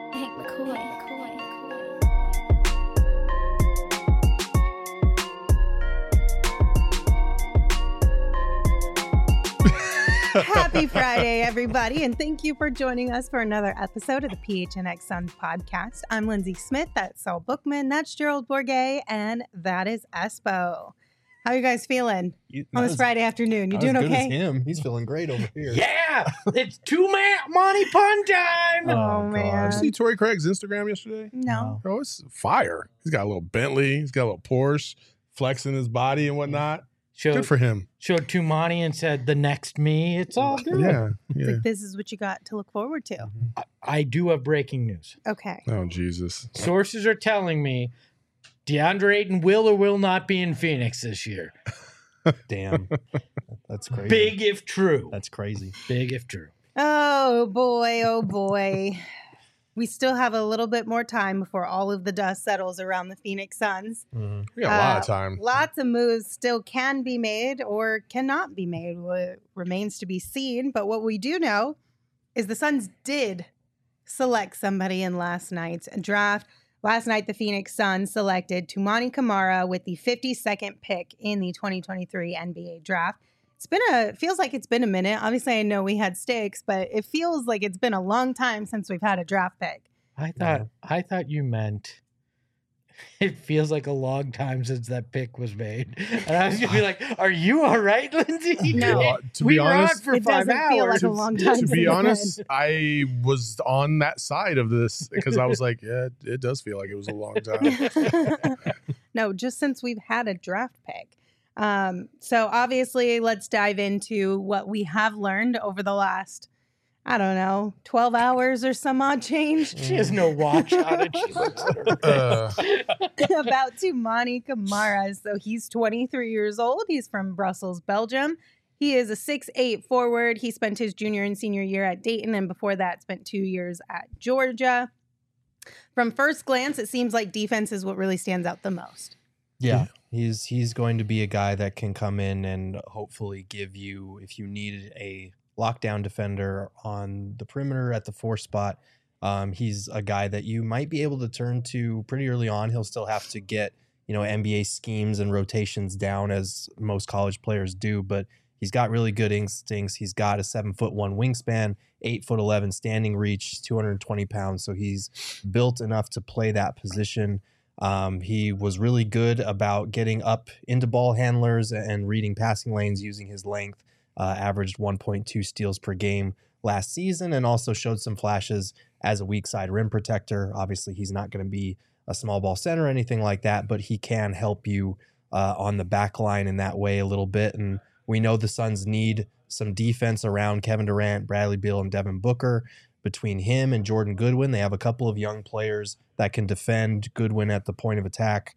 Hank McCoy. Happy Friday, everybody, and thank you for joining us for another episode of the PHNX Suns podcast. I'm Lindsay Smith, that's Saul Bookman, that's Gerald Bourget, and that is Espo. How are you guys feeling on this Friday afternoon? You doing okay? okay? Him. He's feeling great over here. Yeah, it's two-man Monty Pun time. Oh, man. Did you see Torrey Craig's Instagram yesterday? No. Oh, it's fire. He's got a little Bentley. He's got a little Porsche, flexing his body and whatnot. Good for him. Showed Tumani and said, the next me, it's all good. Yeah. It's like, this is what you got to look forward to. I do have breaking news. Okay. Oh, Jesus. Sources are telling me DeAndre Ayton will or will not be in Phoenix this year. Damn. That's crazy. Big if true. That's crazy. Big if true. Oh, boy. Oh, boy. We still have a little bit more time before all of the dust settles around the Phoenix Suns. Mm-hmm. We got a lot of time. Lots of moves still can be made or cannot be made. What remains to be seen. But what we do know is the Suns did select somebody in last night's draft. Last night, the Phoenix Suns selected Toumani Camara with the 52nd pick in the 2023 NBA draft. Feels like it's been a minute. Obviously, I know we had sticks, but it feels like it's been a long time since we've had a draft pick. I thought you meant it feels like a long time since that pick was made. And I was going to be like, are you all right, Lindsay? No. To be honest, were on for 5 doesn't feel hours. like a long time to since be it's honest, been. I was on that side of this because I was like, yeah, it does feel like it was a long time. No, just since we've had a draft pick. So obviously, let's dive into what we have learned over the last, 12 hours or some odd change She has no watch on it. She looks at her. about Toumani Camara. So he's 23 years old. He's from Brussels, Belgium. He is a 6'8" forward. He spent his junior and senior year at Dayton, and before that spent 2 years at Georgia. From first glance, it seems like defense is what really stands out the most. Yeah. He's going to be a guy that can come in and hopefully give you, if you needed a lockdown defender on the perimeter at the 4 spot, he's a guy that you might be able to turn to pretty early on. He'll still have to get, NBA schemes and rotations down as most college players do, but he's got really good instincts. He's got a 7'1" wingspan, 8'11" standing reach, 220 pounds. So he's built enough to play that position. He was really good about getting up into ball handlers and reading passing lanes using his length, averaged 1.2 steals per game last season, and also showed some flashes as a weak side rim protector. Obviously, he's not going to be a small ball center or anything like that, but he can help you on the back line in that way a little bit. And we know the Suns need some defense around Kevin Durant, Bradley Beal, and Devin Booker. Between him and Jordan Goodwin, they have a couple of young players that can defend. Goodwin at the point of attack,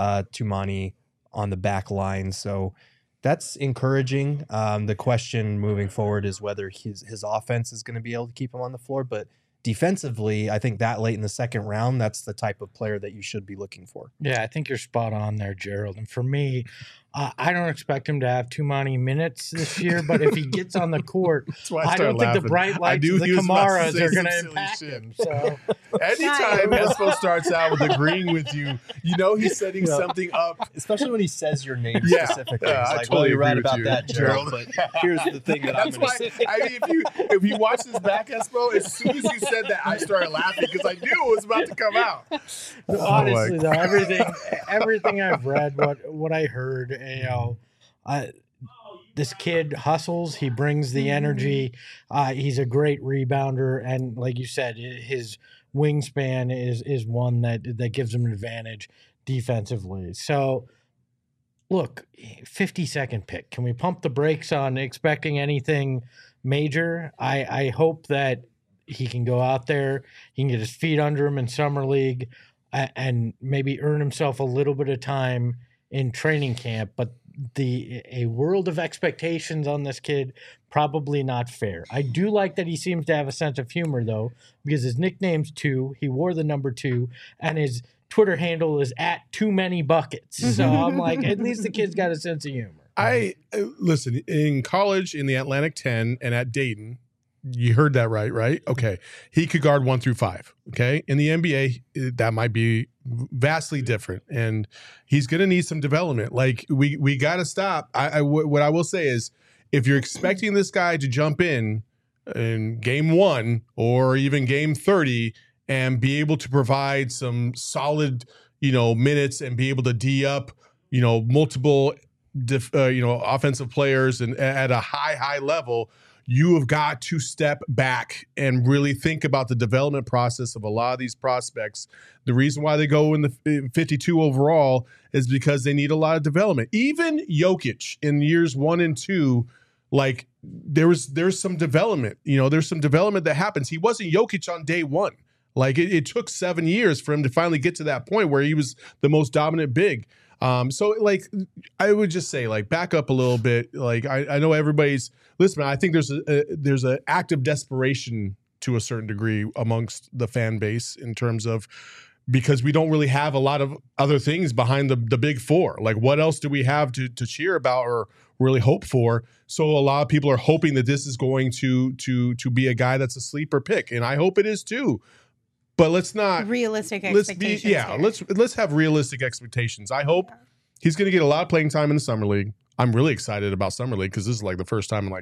Toumani on the back line. So that's encouraging. The question moving forward is whether his offense is going to be able to keep him on the floor. But defensively, I think that late in the second round, that's the type of player that you should be looking for. Yeah, I think you're spot on there, Gerald. And for me, I don't expect him to have too many minutes this year, but if he gets on the court, I don't think the bright lights of the Camaras are going to impact him. So anytime Espo starts out with agreeing with you, he's setting something up. Especially when he says your name Yeah. specifically. Yeah, It's I like, totally you're right agree with about you, that, Gerald. But here's the thing that I'm That's going to why, say. I mean, if you watch this back, Espo, as soon as you said that, I started laughing because I knew it was about to come out. Honestly, though, everything I've read, what I heard, this kid hustles. He brings the energy. He's a great rebounder, and like you said, his wingspan is one that gives him an advantage defensively. So, look, 52nd pick. Can we pump the brakes on expecting anything major? I hope that he can go out there, he can get his feet under him in summer league, and maybe earn himself a little bit of time in training camp. But a world of expectations on this kid, probably not fair. I do like that he seems to have a sense of humor, though, because his nickname's 2. He wore the number 2, and his Twitter handle is @TooManyBuckets. So I'm like, at least the kid's got a sense of humor. I listen, in college in the Atlantic 10 and at Dayton, You heard that right? Okay. He could guard 1 through 5. Okay. In the NBA, that might be vastly different. And he's going to need some development. Like, we got to stop. What I will say is, if you're expecting this guy to jump in game 1 or even game 30 and be able to provide some solid, minutes and be able to D up, multiple, offensive players and at a high level, you have got to step back and really think about the development process of a lot of these prospects. The reason why they go in the 52 overall is because they need a lot of development. Even Jokic in years 1 and 2, like there's some development. There's some development that happens. He wasn't Jokic on day 1. Like it took 7 years for him to finally get to that point where he was the most dominant big. So like I would just say, like, back up a little bit. Like I know everybody's listen. I think there's an act of desperation to a certain degree amongst the fan base in terms of, because we don't really have a lot of other things behind the big four. Like, what else do we have to cheer about or really hope for? So a lot of people are hoping that this is going to be a guy that's a sleeper pick, and I hope it is too. But let's not realistic expectations. Let's have realistic expectations. I hope he's going to get a lot of playing time in the summer league. I'm really excited about summer league because this is like the first time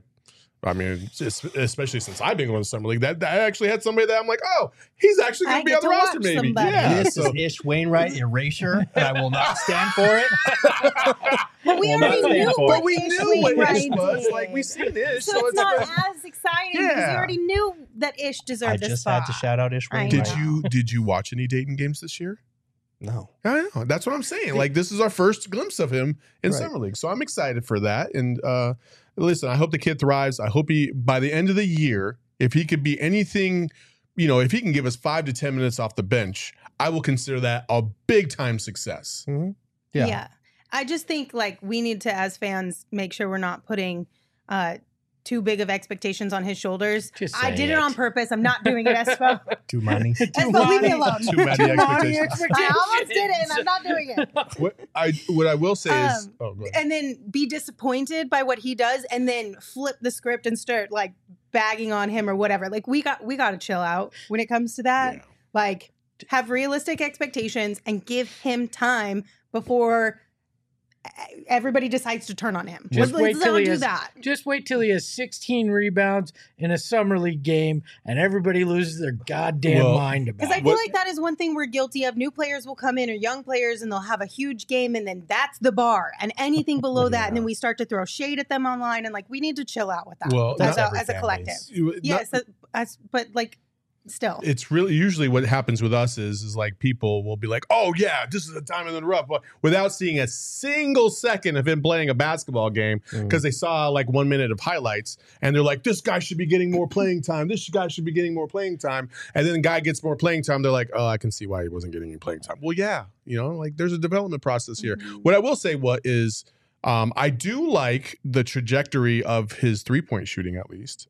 especially since I've been going to summer league, that I actually had somebody that I'm like, oh, he's actually going to be on the roster, maybe. Somebody. Yeah, this is Ish Wainwright erasure, and I will not stand for it. But we already knew what Ish was. Like, we've seen Ish, so it's not as exciting because we already knew that Ish deserved this spot. I just had to shout out Ish Wainwright. Did you watch any Dayton games this year? No. I know. That's what I'm saying. Like, this is our first glimpse of him in summer league, so I'm excited for that. And listen, I hope the kid thrives. I hope he, by the end of the year, if he could be anything, if he can give us 5 to 10 minutes off the bench, I will consider that a big time success. Mm-hmm. Yeah. I just think, like, we need to, as fans, make sure we're not putting too big of expectations on his shoulders. I did it on purpose. I'm not doing it, Espo. Too many. Espo, leave me alone. Too many expectations. I almost did it, and I'm not doing it. What I will say is, and then be disappointed by what he does, and then flip the script and start like bagging on him or whatever. Like, we got to chill out when it comes to that. Yeah. Like, have realistic expectations and give him time before everybody decides to turn on him. Just wait till he has 16 rebounds in a summer league game and everybody loses their goddamn mind about it. Because I feel like that is one thing we're guilty of. New players will come in, or young players, and they'll have a huge game, and then that's the bar. And anything below that, and then we start to throw shade at them online, and like, we need to chill out with that. Well, as a collective. Yes, but like, still, it's really usually what happens with us is like people will be like, oh yeah, this is a diamond in the rough, but without seeing a single second of him playing a basketball game, because they saw like 1 minute of highlights and they're like, this guy should be getting more playing time. This guy should be getting more playing time. And then the guy gets more playing time. They're like, oh, I can see why he wasn't getting any playing time. Well, yeah, like there's a development process here. What I will say I do like the trajectory of his 3-point shooting, at least.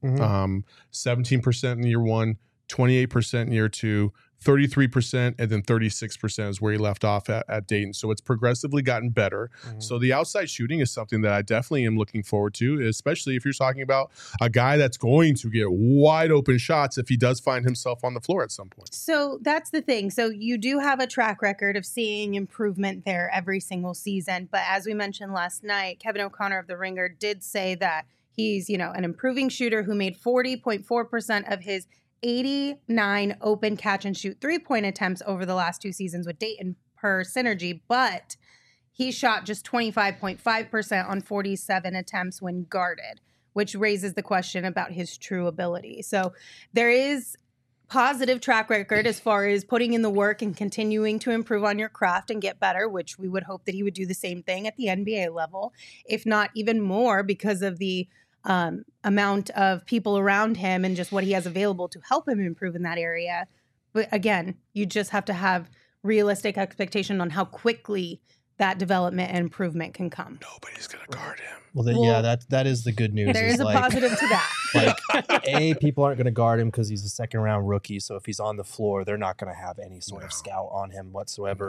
17% in year 1, 28% in year 2, 33%, and then 36% is where he left off at Dayton. So it's progressively gotten better. So the outside shooting is something that I definitely am looking forward to, especially if you're talking about a guy that's going to get wide open shots if he does find himself on the floor at some point. So that's the thing. So you do have a track record of seeing improvement there every single season. But as we mentioned last night, Kevin O'Connor of The Ringer did say that he's, an improving shooter who made 40.4% of his 89 open catch and shoot 3-point attempts over the last 2 seasons with Dayton per Synergy, but he shot just 25.5% on 47 attempts when guarded, which raises the question about his true ability. So there is positive track record as far as putting in the work and continuing to improve on your craft and get better, which we would hope that he would do the same thing at the NBA level, if not even more, because of the amount of people around him and just what he has available to help him improve in that area. But again, you just have to have realistic expectation on how quickly that development and improvement can come. Nobody's going to guard him. Well, that is the good news. There is a positive to that. People aren't going to guard him because he's a second-round rookie. So if he's on the floor, they're not going to have any sort of scout on him whatsoever. No.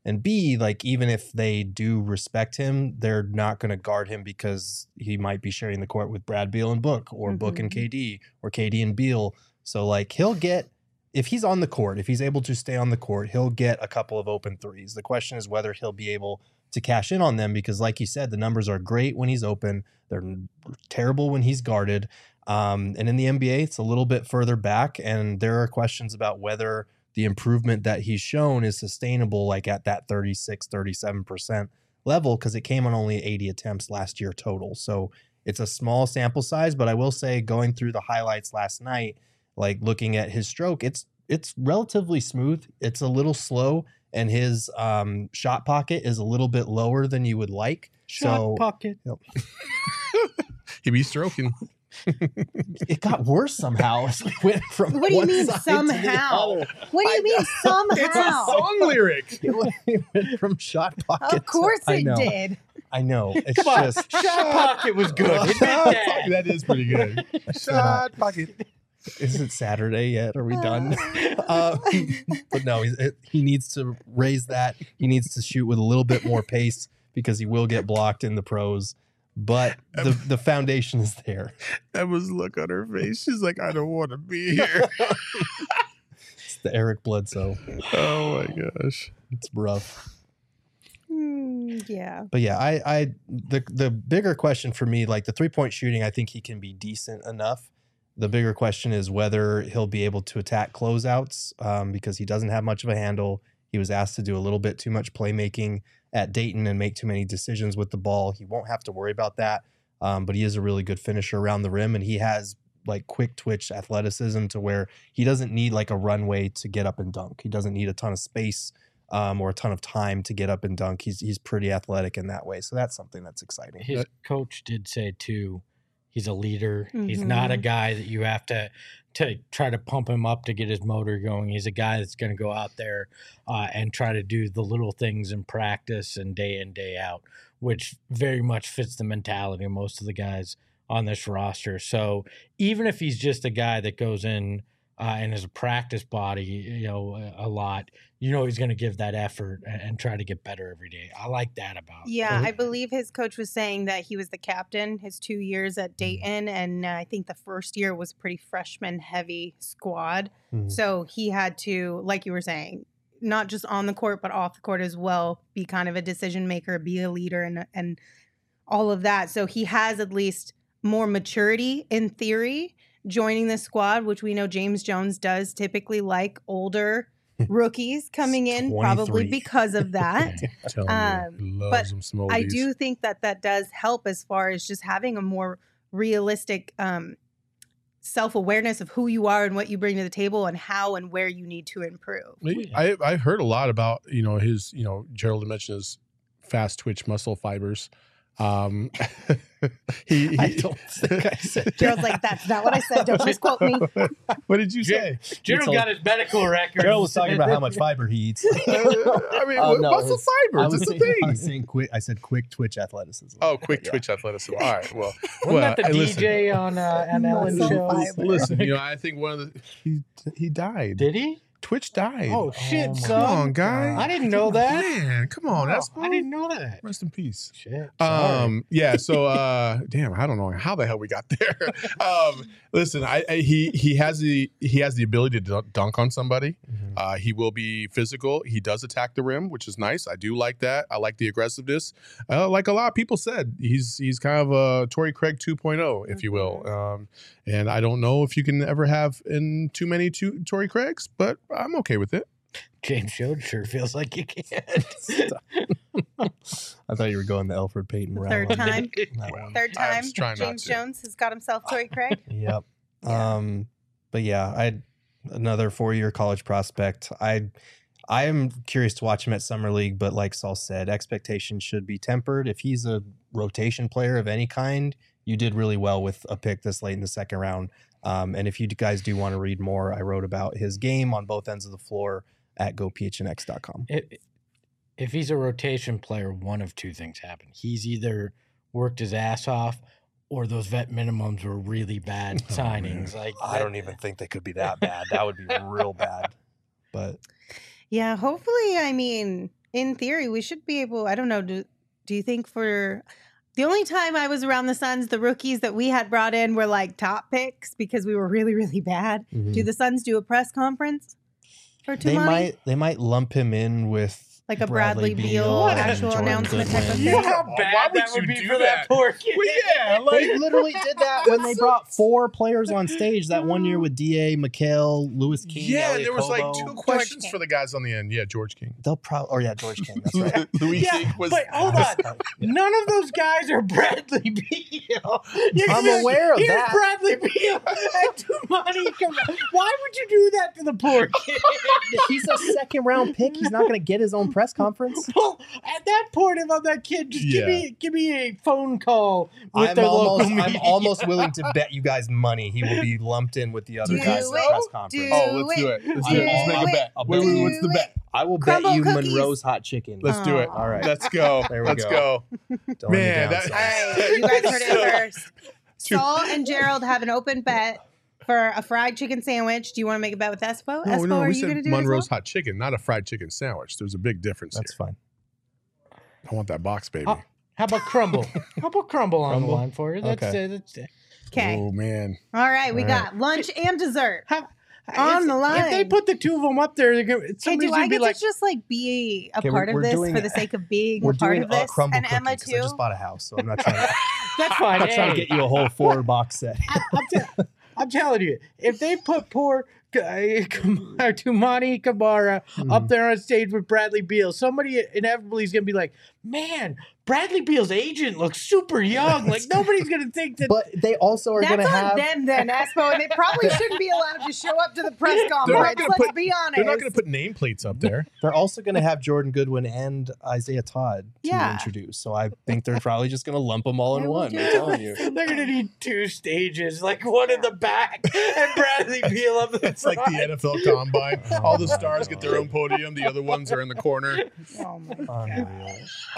And B, like, even if they do respect him, they're not going to guard him because he might be sharing the court with Brad Beal and Book, or Book and KD, or KD and Beal. So, like, he'll get, if he's on the court, if he's able to stay on the court, he'll get a couple of open threes. The question is whether he'll be able to cash in on them, because like you said, the numbers are great when he's open. They're terrible when he's guarded. And in the NBA, it's a little bit further back, and there are questions about whether the improvement that he's shown is sustainable, like at that 36, 37% level, because it came on only 80 attempts last year total. So it's a small sample size, but I will say, going through the highlights last night, like looking at his stroke, it's relatively smooth. It's a little slow, and his shot pocket is a little bit lower than you would like. Shot pocket. He be stroking. It got worse somehow as we went from What do you one mean side to the somehow? other. What do you mean somehow? It's a song lyric. It went from shot pocket. Of course I it know. did. I know. It's Come on, just shot pocket was good. Admit that. That is pretty good. Shot pocket. Is it Saturday yet? Are we done? But no, he needs to raise that. He needs to shoot with a little bit more pace, because he will get blocked in the pros. But the foundation is there. Emma's look on her face. She's like, I don't want to be here. It's the Eric Bledsoe. Oh my gosh. It's rough. Yeah. But yeah, the bigger question for me, like the 3-point shooting, I think he can be decent enough. The bigger question is whether he'll be able to attack closeouts, because he doesn't have much of a handle. He was asked to do a little bit too much playmaking at Dayton and make too many decisions with the ball. He won't have to worry about that, but he is a really good finisher around the rim, and he has like quick twitch athleticism to where he doesn't need like a runway to get up and dunk. He doesn't need a ton of space or a ton of time to get up and dunk. He's pretty athletic in that way, so that's something that's exciting. His coach did say too, he's a leader. He's not a guy that you have to try to pump him up to get his motor going. He's a guy that's going to go out there and try to do the little things in practice and day in, day out, which very much fits the mentality of most of the guys on this roster. So even if he's just a guy that goes in and is a practice body, a lot, he's going to give that effort and try to get better every day. I like that about him. Yeah, I believe his coach was saying that he was the captain his 2 years at Dayton, and I think the first year was pretty freshman-heavy squad. So he had to, like you were saying, not just on the court, but off the court as well, be kind of a decision maker, be a leader, and all of that. So he has at least more maturity in theory joining the squad, which we know James Jones does typically like older rookies coming in, 23. probably because of that. Loves him some oldies. I do think that does help as far as just having a more realistic self-awareness of who you are and what you bring to the table and how and where you need to improve. I've heard a lot about, his, Gerald mentioned his fast twitch muscle fibers. I don't think I said Gerald's like, that's not what I said. Don't misquote me. What did you say? Gerald got his medical record. Gerald was talking about how much fiber he eats. Muscle fibers. It's a thing. I was saying quick. I said quick twitch athleticism. Oh, quick twitch athleticism. All right. Well, Wasn't that the DJ on an Ellen Muscle show? fiber. Listen, I think one of he died. Did he? Twitch died. Oh shit, my son. Come on, guy. I didn't know that. Man, come on. That's I didn't know that. Rest in peace. Shit. Sorry. Yeah. So, damn, I don't know how the hell we got there. Listen, he has the ability to dunk on somebody. He will be physical. He does attack the rim, which is nice. I do like that. I like the aggressiveness. Like a lot of people said, he's kind of a Torrey Craig 2.0, if you will. And I don't know if you can ever have in too many Torrey Craigs, but I'm okay with it. James Jones sure feels like you can. I thought you were going the Elfrid Payton route. Third time. Third I time was trying not James to. Jones has got himself Torrey Craig. Yep. But yeah, I had another 4-year college prospect. I am curious to watch him at Summer League, but like Saul said, expectations should be tempered. If he's a rotation player of any kind, you did really well with a pick this late in the second round. And if you guys do want to read more, I wrote about his game on both ends of the floor at gophnx.com. If he's a rotation player, one of two things happen. He's either worked his ass off, or those vet minimums were really bad signings. Man. I don't even think they could be that bad. That would be real bad. But yeah, hopefully, in theory, we should be able. I don't know. Do you think for the only time I was around the Suns, the rookies that we had brought in were like top picks because we were really, really bad. Mhm. Do the Suns do a press conference for Tumani? They might lump him in with Like a Bradley Beal and actual Jordan announcement type of Goodwin. thing? You know how Why bad would that would you be do for that that? poor kid. Well, yeah, like They literally did that when they brought 4 players on stage that one year with Da, McHale, Lewis King. yeah, Elliot there was like Kobo. 2 questions King. for the guys on the end. Yeah, George King. They'll probably. Oh yeah, George King. That's right. Louis Yeah, King was. but hold on. None of those guys are Bradley Beal. I'm aware of Here's that. Bradley Beal and Tumani. Why would you do that to the poor kid? He's a second round pick. He's not going to get his own press conference. Well, at that point about that kid, just give me a phone call with the local I'm media. almost willing to bet you guys money he will be lumped in with the other Do guys at the it. press conference. Do Oh, let's do it. Let's Do do it. Let's make a it. bet. I'll Wait, bet you. what's the bet? I will Crumble bet you cookies. Monroe's hot chicken. Let's do it. Aw. All right. Let's go. There we Let's go. go. Don't let me Man, down, that- son. All right, you guys heard it first. Saul and Gerald have an open bet for a fried chicken sandwich. Do you want to make a bet with Espo? Espo, No, are we you going to said do it as Monroe's well? hot chicken, not a fried chicken sandwich. There's a big difference That's here. fine. I want that box, baby. Oh, how about crumble? How about crumble on the Crumble? line for you? That's, Okay. that's Okay. Oh man. All right, we All got lunch and dessert. how, On if, the line. If they put the two of them up there, they're gonna, Hey, somebody's do I gonna be get like, to just like be a Okay, part we're of this doing- for the sake of being We're a part doing of this? crumble And Emma cookies 'cause too. I just bought a house, so I'm not trying to, that's fine. I'm not trying to Hey, get you a whole 4-box set. I'm telling you, if they put poor Tumani Kamara Mm-hmm. up there on stage with Bradley Beal, somebody inevitably is going to be like, man, Bradley Beal's agent looks super young. Like, nobody's going to think that. But they also are going That's to on have. them then, Espo, and they probably shouldn't be allowed to show up to the press not conference. gonna Let's put- be honest. They're not going to put nameplates up there. They're also going to have Jordan Goodwin and Isaiah Todd to Yeah. introduce. So I think they're probably just going to lump them all in They will one. do I'm telling you. They're going to need 2 stages, like one in the back and Bradley Beal up in the It's like the front. NFL Combine. All the Oh, my stars get their God. own podium. The other ones are in the corner. Oh my Unreal.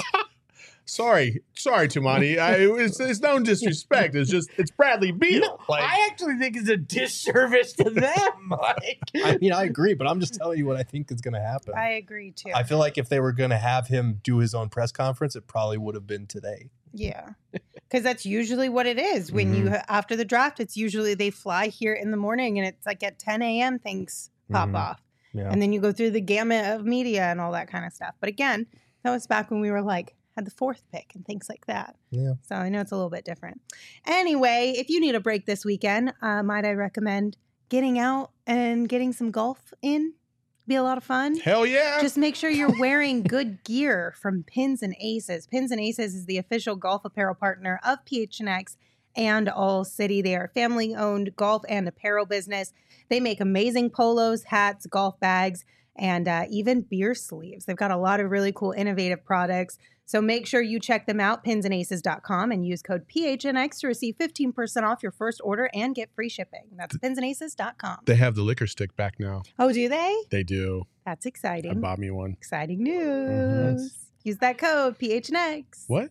Sorry, Tumani. It's no disrespect. It's Bradley Beal. No, I actually think it's a disservice to them. Like, I mean, I agree, but I'm just telling you what I think is going to happen. I agree too. I feel like if they were going to have him do his own press conference, it probably would have been today. Yeah, because that's usually what it is. When you after the draft, it's usually they fly here in the morning, and it's like at 10 a.m. things pop Mhm. off, Yeah. and then you go through the gamut of media and all that kind of stuff. But again, that was back when we were like had the 4th pick and things like that. Yeah. So I know it's a little bit different. Anyway, if you need a break this weekend, might I recommend getting out and getting some golf in? Be a lot of fun. Hell yeah. Just make sure you're wearing good gear from Pins and Aces. Pins and Aces is the official golf apparel partner of PHNX and All City. They are a family-owned golf and apparel business. They make amazing polos, hats, golf bags, and even beer sleeves. They've got a lot of really cool, innovative products. So make sure you check them out, pinsandaces.com, and use code PHNX to receive 15% off your first order and get free shipping. That's pinsandaces.com. They have the liquor stick back now. Oh, do they? They do. That's I exciting. bought me one. Exciting news. Use that code PHNX. What?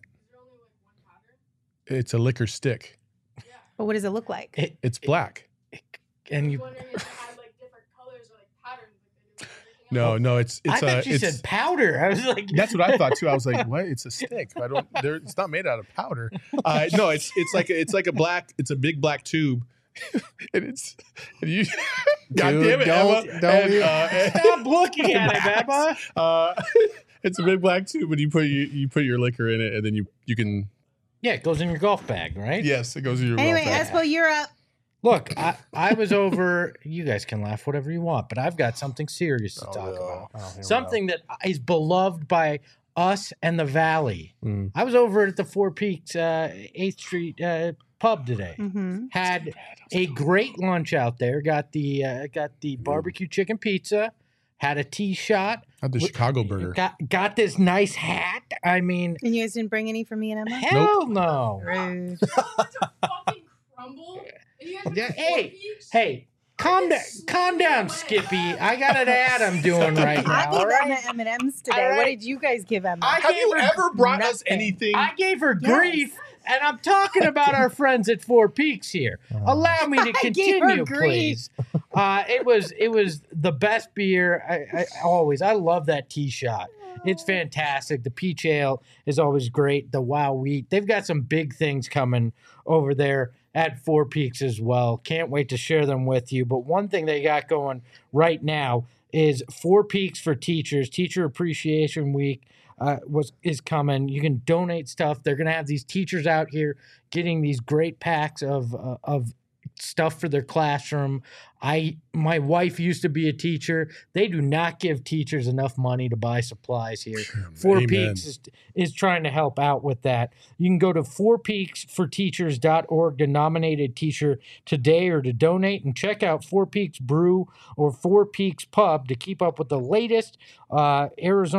It's a liquor stick. But what does it look like? It's black. and you. Wondering if it had like different colors or like patterns like they do with everything No, else. no, it's I thought you it's said powder. I was like, that's what I thought too. I was like, what? It's a stick. I don't. It's not made out of powder. No, it's like a black. It's a big black tube, and it's and you. God Dude, damn it, don't- Emma. don't And, Stop looking at it, Emma. it's a big black tube, and you put your liquor in it, and then you can. Yeah, it goes in your golf bag, right? Yes, it goes in your. Anyway, golf bag. Espo, you're up. Look, I was over. You guys can laugh whatever you want, but I've got something serious to Oh, talk no. about. Oh, here we Something that is beloved by us and the Valley. go. Mm. I was over at the Four Peaks 8th Street pub today. Mm-hmm. Had a great lunch out there. Got the barbecue chicken pizza. Had a tea shot. Not the Chicago burger. Got this nice hat. I mean, And you guys didn't bring any for me and Emma? hell no. Rude. It's a fucking crumble. And you guys went Yeah, to hey, Four Peaks? Hey, calm down, Skippy. I got an ad I'm doing right I now. gave all right? Emma M&M's today. All What right. did you guys give Emma? I Have gave you her ever brought us nothing. anything? I gave her Yes. grief, and I'm talking about our friends at Four Peaks here. Allow me to I gave her continue, grief. please. It was the best beer. I love that tea shot. It's fantastic. The peach ale is always great. The wow wheat. They've got some big things coming over there at Four Peaks as well. Can't wait to share them with you. But one thing they got going right now is Four Peaks for Teachers. Teacher Appreciation Week is coming. You can donate stuff. They're going to have these teachers out here getting these great packs of stuff for their classroom. My wife used to be a teacher. They do not give teachers enough money to buy supplies here. Four Amen. Peaks is trying to help out with that. You can go to fourpeaksforteachers.org to nominate a teacher today or to donate, and check out Four Peaks Brew or Four Peaks Pub to keep up with the latest Arizona's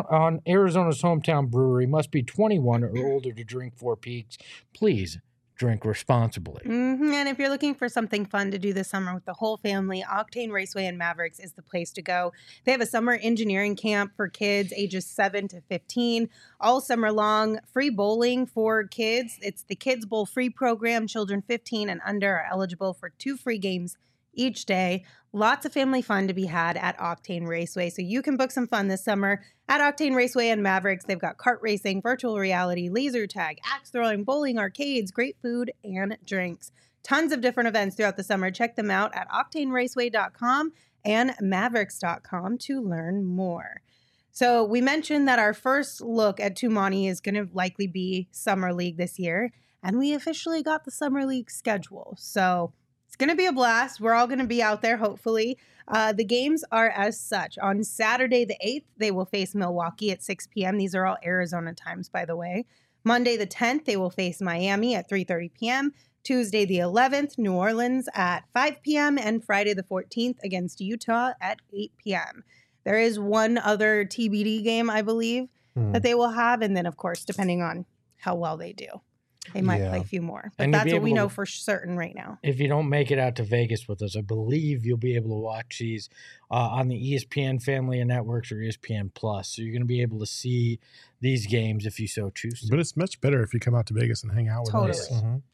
hometown brewery. Must be 21 or older to drink Four Peaks. Please drink responsibly. And if you're looking for something fun to do this summer with the whole family, Octane Raceway and Mavericks is the place to go. They have a summer engineering camp for kids ages 7 to 15, all summer long. Free bowling for kids. It's the Kids Bowl free program. Children 15 and under are eligible for 2 free games each day. Lots of family fun to be had at Octane Raceway. So you can book some fun this summer at Octane Raceway and Mavericks. They've got kart racing, virtual reality, laser tag, axe throwing, bowling, arcades, great food, and drinks. Tons of different events throughout the summer. Check them out at octaneraceway.com and mavericks.com to learn more. So we mentioned that our first look at Tumani is going to likely be Summer League this year, and we officially got the Summer League schedule. So it's going to be a blast. We're all going to be out there, hopefully. The games are as such. On Saturday the 8th, they will face Milwaukee at 6 p.m. These are all Arizona times, by the way. Monday the 10th, they will face Miami at 3:30 p.m. Tuesday the 11th, New Orleans at 5 p.m. And Friday the 14th against Utah at 8 p.m. There is one other TBD game, I believe, that they will have. And then, of course, depending on how well they do, they might play a few more. But And you'll that's be what we able know to- for certain right now. If you don't make it out to Vegas with us, I believe you'll be able to watch these on the ESPN family of networks or ESPN Plus. So you're going to be able to see these games if you so choose to. But it's much better if you come out to Vegas and hang out with us. Totally.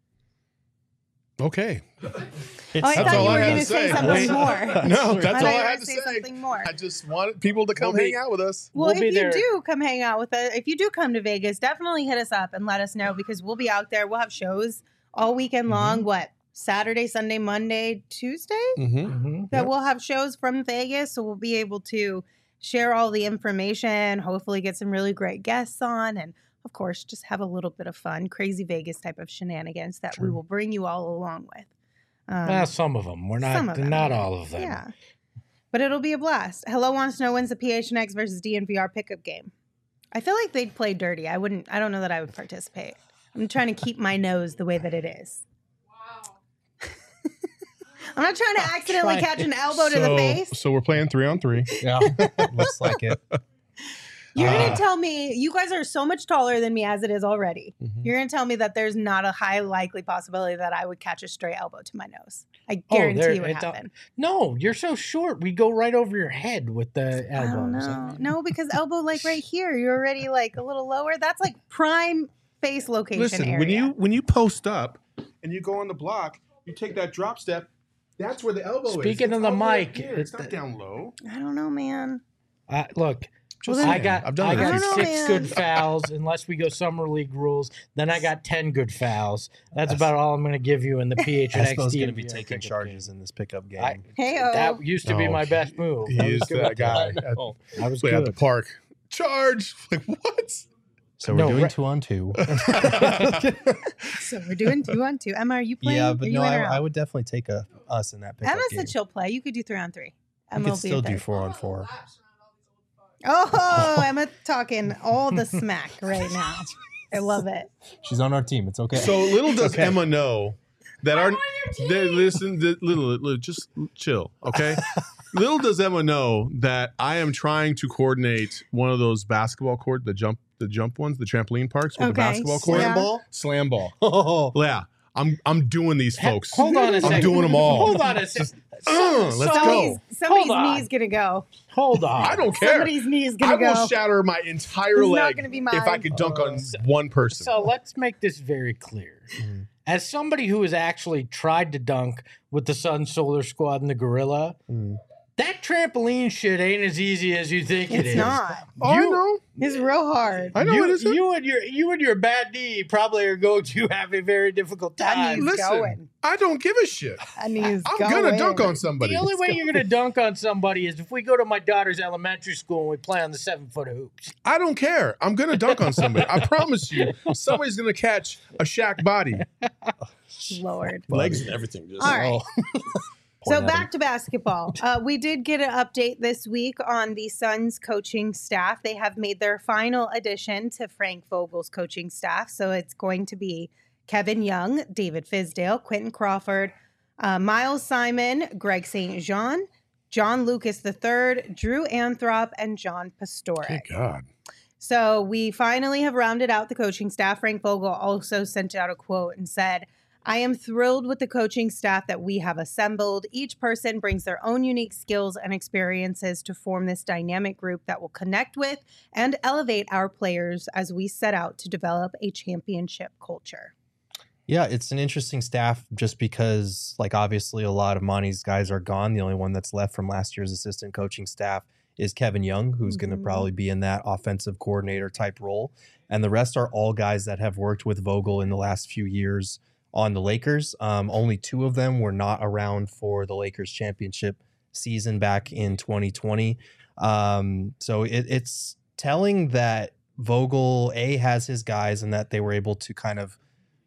Okay. I That's thought all you I were had going to to say say. something more. No, I that's thought all you I were had gonna to say say. something more. I just wanted people to come We'll be- hang out with us. Well, We'll if be you there. do come hang out with us, if you do come to Vegas, definitely hit us up and let us know because we'll be out there. We'll have shows all weekend long. What? Saturday, Sunday, Monday, Tuesday? Mm-hmm. That we'll have shows from Vegas. So we'll be able to share all the information, hopefully get some really great guests on, and of course, just have a little bit of fun, crazy Vegas type of shenanigans that we will bring you all along with. Some of them. We're some not of them. not all of them. Yeah. But it'll be a blast. Hello Wants to Know wins the PHNX versus DNVR pickup game. I feel like they'd play dirty. I don't know that I would participate. I'm trying to keep my nose the way that it is. Wow. I'm not trying to accidentally catch an elbow to the face. So we're playing 3-on-3. Yeah, looks like it. You're going to tell me, you guys are so much taller than me as it is already. Mhm. You're going to tell me that there's not a high likely possibility that I would catch a stray elbow to my nose. I Oh, guarantee there- it would it's a- happen. No, you're so short. We go right over your head with the I don't elbows. know. No, because elbow like right here, you're already like a little lower. That's like prime face location Listen, area. when you post up and you go on the block, you take that drop step. That's where the elbow is. Speaking It's of the all the way up mic, here. it's It's not the- down low. I don't know, man. Look, Just then- I saying. got I've done it a I few don't know, six man. good fouls unless we go summer league rules. Then I got 10 good fouls. That's about all I'm going to give you in the PHNX. Espo's going to be DNVR taking pickup charges in this pickup game. game. Hey-o. That used to be Oh, my best move. He I was is good that with guy. I was Play at the good. park. Charge. Like, what? So we're No, doing right- 2-on-2. So we're doing 2-on-2. Emma, are you playing? Yeah, Are but you no, in or out? I would definitely take us in that pickup Emma game. said she'll play. You could do 3-on-3. We Emma could will be still do there. 4-on-4. Oh, Emma talking all the smack right now. I love it. She's on our team. It's okay. So little does Okay. Emma know that listen, just chill, okay? Little does Emma know that I am trying to coordinate one of those basketball court, the jump ones, the trampoline parks with the Okay, basketball court. yeah. Slam ball. Oh, Yeah. I'm doing these folks. Hold on a second. I'm doing them all. Hold on a second. Let's go. Somebody's Hold on. knee's gonna go. Hold on. I don't care. Somebody's knee's I gonna will go. shatter my entire It's not leg gonna be if I mine. could dunk on one person. So let's make this very clear. Mhm. As somebody who has actually tried to dunk with the Sun Solar Squad and the Gorilla, Mm. That trampoline shit ain't as easy as you think it is. It's not. Oh, I know. It's real hard. I know it isn't. You and your bad knee probably are going to have a very difficult That time. knee's Listen, going. I don't give a shit. That knee's I'm going. gonna dunk on somebody. The only way you're going to dunk on somebody is if we go to my daughter's elementary school and we play on the 7-foot hoops. I don't care. I'm gonna dunk on somebody. I promise you, somebody's gonna catch a Shaq body, Lord. legs and everything. Just, All right. So Point at back to basketball. We did get an update this week on the Suns coaching staff. They have made their final addition to Frank Vogel's coaching staff. So it's going to be Kevin Young, David Fizdale, Quentin Crawford, Miles Simon, Greg St. Jean, John Lucas III, Drew Anthrop, and John Pastore. Good God. So we finally have rounded out the coaching staff. Frank Vogel also sent out a quote and said, I am thrilled with the coaching staff that we have assembled. Each person brings their own unique skills and experiences to form this dynamic group that will connect with and elevate our players as we set out to develop a championship culture. Yeah, it's an interesting staff just because, like, obviously a lot of Monty's guys are gone. The only one that's left from last year's assistant coaching staff is Kevin Young, who's going to probably be in that offensive coordinator type role. And the rest are all guys that have worked with Vogel in the last few years on the Lakers. Only 2 of them were not around for the Lakers championship season back in 2020. So it's telling that Vogel, has his guys and that they were able to kind of,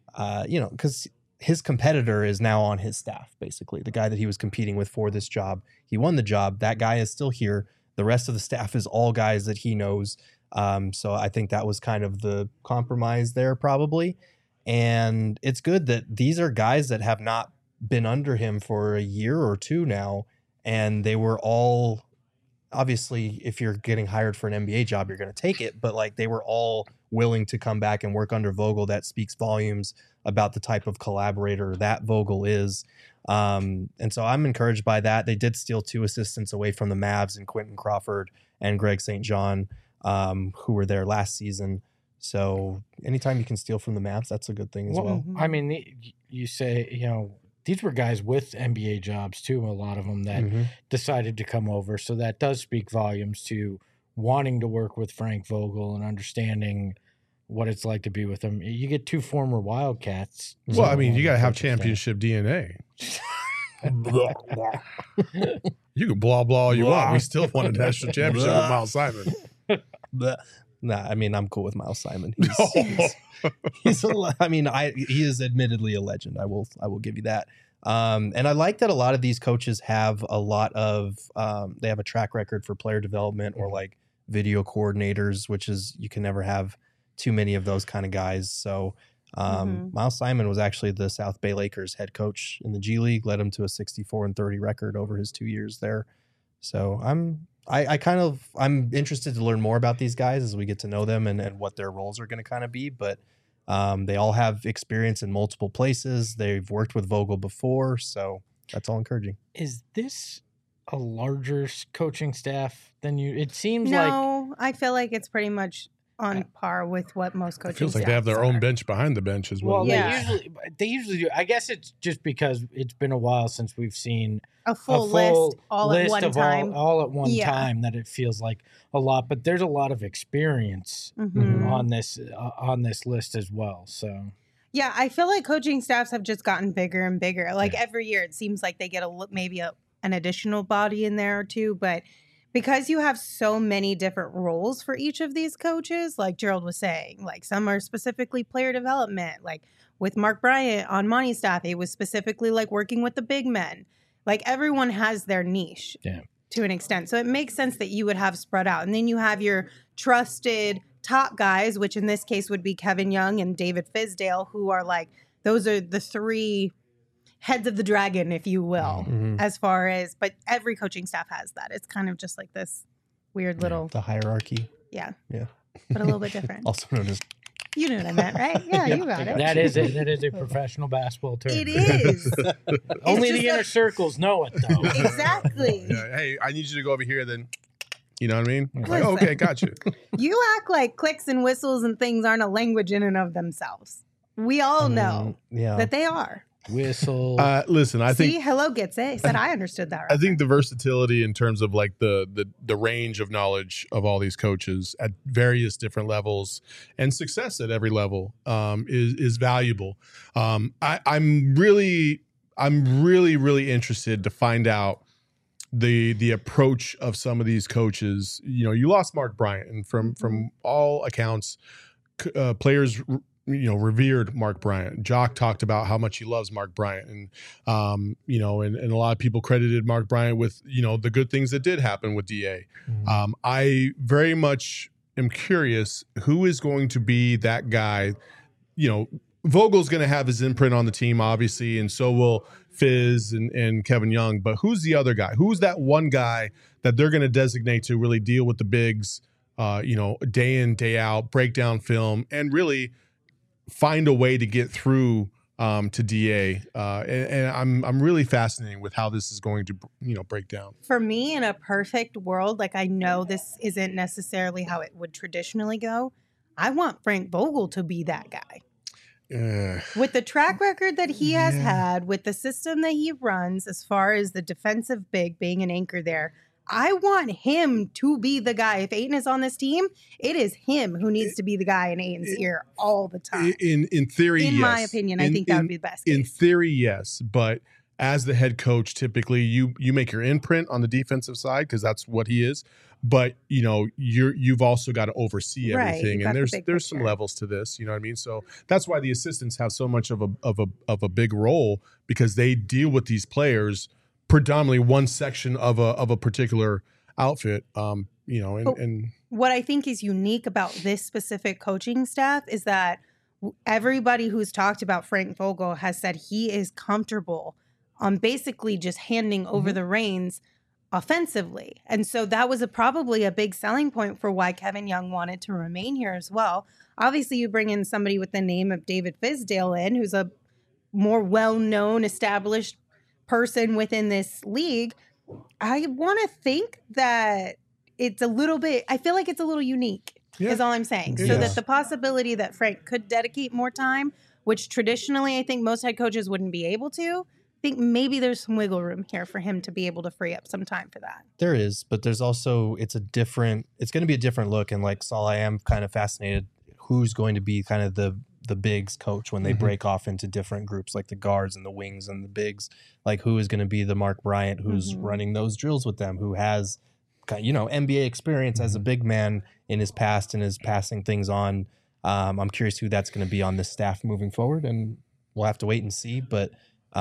because his competitor is now on his staff, basically. The guy that he was competing with for this job, he won the job. That guy is still here. The rest of the staff is all guys that he knows. So I think that was kind of the compromise there probably. And it's good that these are guys that have not been under him for a year or 2 now. And they were all, obviously, if you're getting hired for an NBA job, you're going to take it. But like they were all willing to come back and work under Vogel. That speaks volumes about the type of collaborator that Vogel is. And so I'm encouraged by that. They did steal 2 assistants away from the Mavs, and Quentin Crawford and Greg St. John, who were there last season. So anytime you can steal from the Mavs, that's a good thing as well. I mean, you say, these were guys with NBA jobs too, a lot of them that decided to come over. So that does speak volumes to wanting to work with Frank Vogel and understanding what it's like to be with him. You get 2 former Wildcats. Well, I mean, you got to have championship DNA. You can blah, blah all you want. We still won a national championship with Miles Simon. Nah, I mean, I'm cool with Miles Simon. He is admittedly a legend. I will give you that. And I like that a lot of these coaches have a lot of, they have a track record for player development or like video coordinators, which is, you can never have too many of those kind of guys. So Miles Simon was actually the South Bay Lakers head coach in the G League, led him to a 64-30 record over his 2 years there. So I'm interested to learn more about these guys as we get to know them and what their roles are going to kind of be. But they all have experience in multiple places. They've worked with Vogel before, so that's all encouraging. Is this a larger coaching staff than you? It seems No, I feel like it's pretty much on par with what most coaching It feels like they have their own bench behind the bench as well. Well, Yeah. they usually do. I guess it's just because it's been a while since we've seen a full list all at list one of time. all at one Yeah. time, that it feels like a lot. But there's a lot of experience Mhm. on this list as well. So Yeah, I feel like coaching staffs have just gotten bigger and bigger. Like every year, it seems like they get maybe an additional body in there or 2. But because you have so many different roles for each of these coaches, like Gerald was saying, like some are specifically player development. Like with Mark Bryant on Monty's staff, it was specifically like working with the big men. Like everyone has their niche to an extent. So it makes sense that you would have spread out. And then you have your trusted top guys, which in this case would be Kevin Young and David Fizdale, who are like, those are the 3 heads of the dragon, if you will, as far as, but every coaching staff has that. It's kind of just like this weird little, The hierarchy. yeah, Yeah. but a little bit different. Also known as You knew what I meant, right? Yeah, you got it. that is a professional basketball term. It is. Only just the inner circles know it, though. Exactly. Yeah, hey, I need you to go over here then. You know what I mean? Like, Listen. okay, gotcha. You act like clicks and whistles and things aren't a language in and of themselves. We all know yeah. that they are. whistle. Listen, I See, think Hello gets it. He said I understood that. I think the versatility in terms of like the range of knowledge of all these coaches at various different levels and success at every level is valuable. I'm really interested to find out the approach of some of these coaches. You know, you lost Mark Bryant, and from all accounts, players revered Mark Bryant. Jock talked about how much he loves Mark Bryant, and and a lot of people credited Mark Bryant with the good things that did happen with DA. I very much am curious who is going to be that guy. Vogel's going to have his imprint on the team, obviously, and so will Fizz and Kevin Young. But who's the other guy? Who's that one guy that they're going to designate to really deal with the bigs, day in, day out, break down film, and really find a way to get through to DA? And I'm really fascinated with how this is going to break down. For me, in a perfect world, like I know this isn't necessarily how it would traditionally go, I want Frank Vogel to be that guy. With the track record that he has had, with the system that he runs, as far as the defensive big being an anchor there, I want him to be the guy. If Ayton is on this team, it is him who needs to be the guy in Ayton's ear all the time. In theory, in yes. my opinion, I think that would be the best case. In theory, yes, but as the head coach, typically you make your imprint on the defensive side because that's what he is. But you've also got to oversee everything, and there's some levels to this. You know what I mean? So that's why the assistants have so much of a big role, because they deal with these players predominantly one section of a particular outfit. And what I think is unique about this specific coaching staff is that everybody who's talked about Frank Vogel has said he is comfortable on basically just handing over the reins offensively. And so that was probably a big selling point for why Kevin Young wanted to remain here as well. Obviously, you bring in somebody with the name of David Fizdale in, who's a more well-known, established person within this league. I want to think that it's a little bit, I feel like it's a little unique, is all I'm saying. So that the possibility that Frank could dedicate more time, which traditionally I think most head coaches wouldn't be able to, I think maybe there's some wiggle room here for him to be able to free up some time for that. There is, but there's also, it's going to be a different look. And like Saul, I am kind of fascinated who's going to be kind of the bigs coach when they break off into different groups, like the guards and the wings and the bigs. Like who is going to be the Mark Bryant who's running those drills with them, who has NBA experience as a big man in his past and is passing things on. I'm curious who that's going to be on this staff moving forward, and we'll have to wait and see. But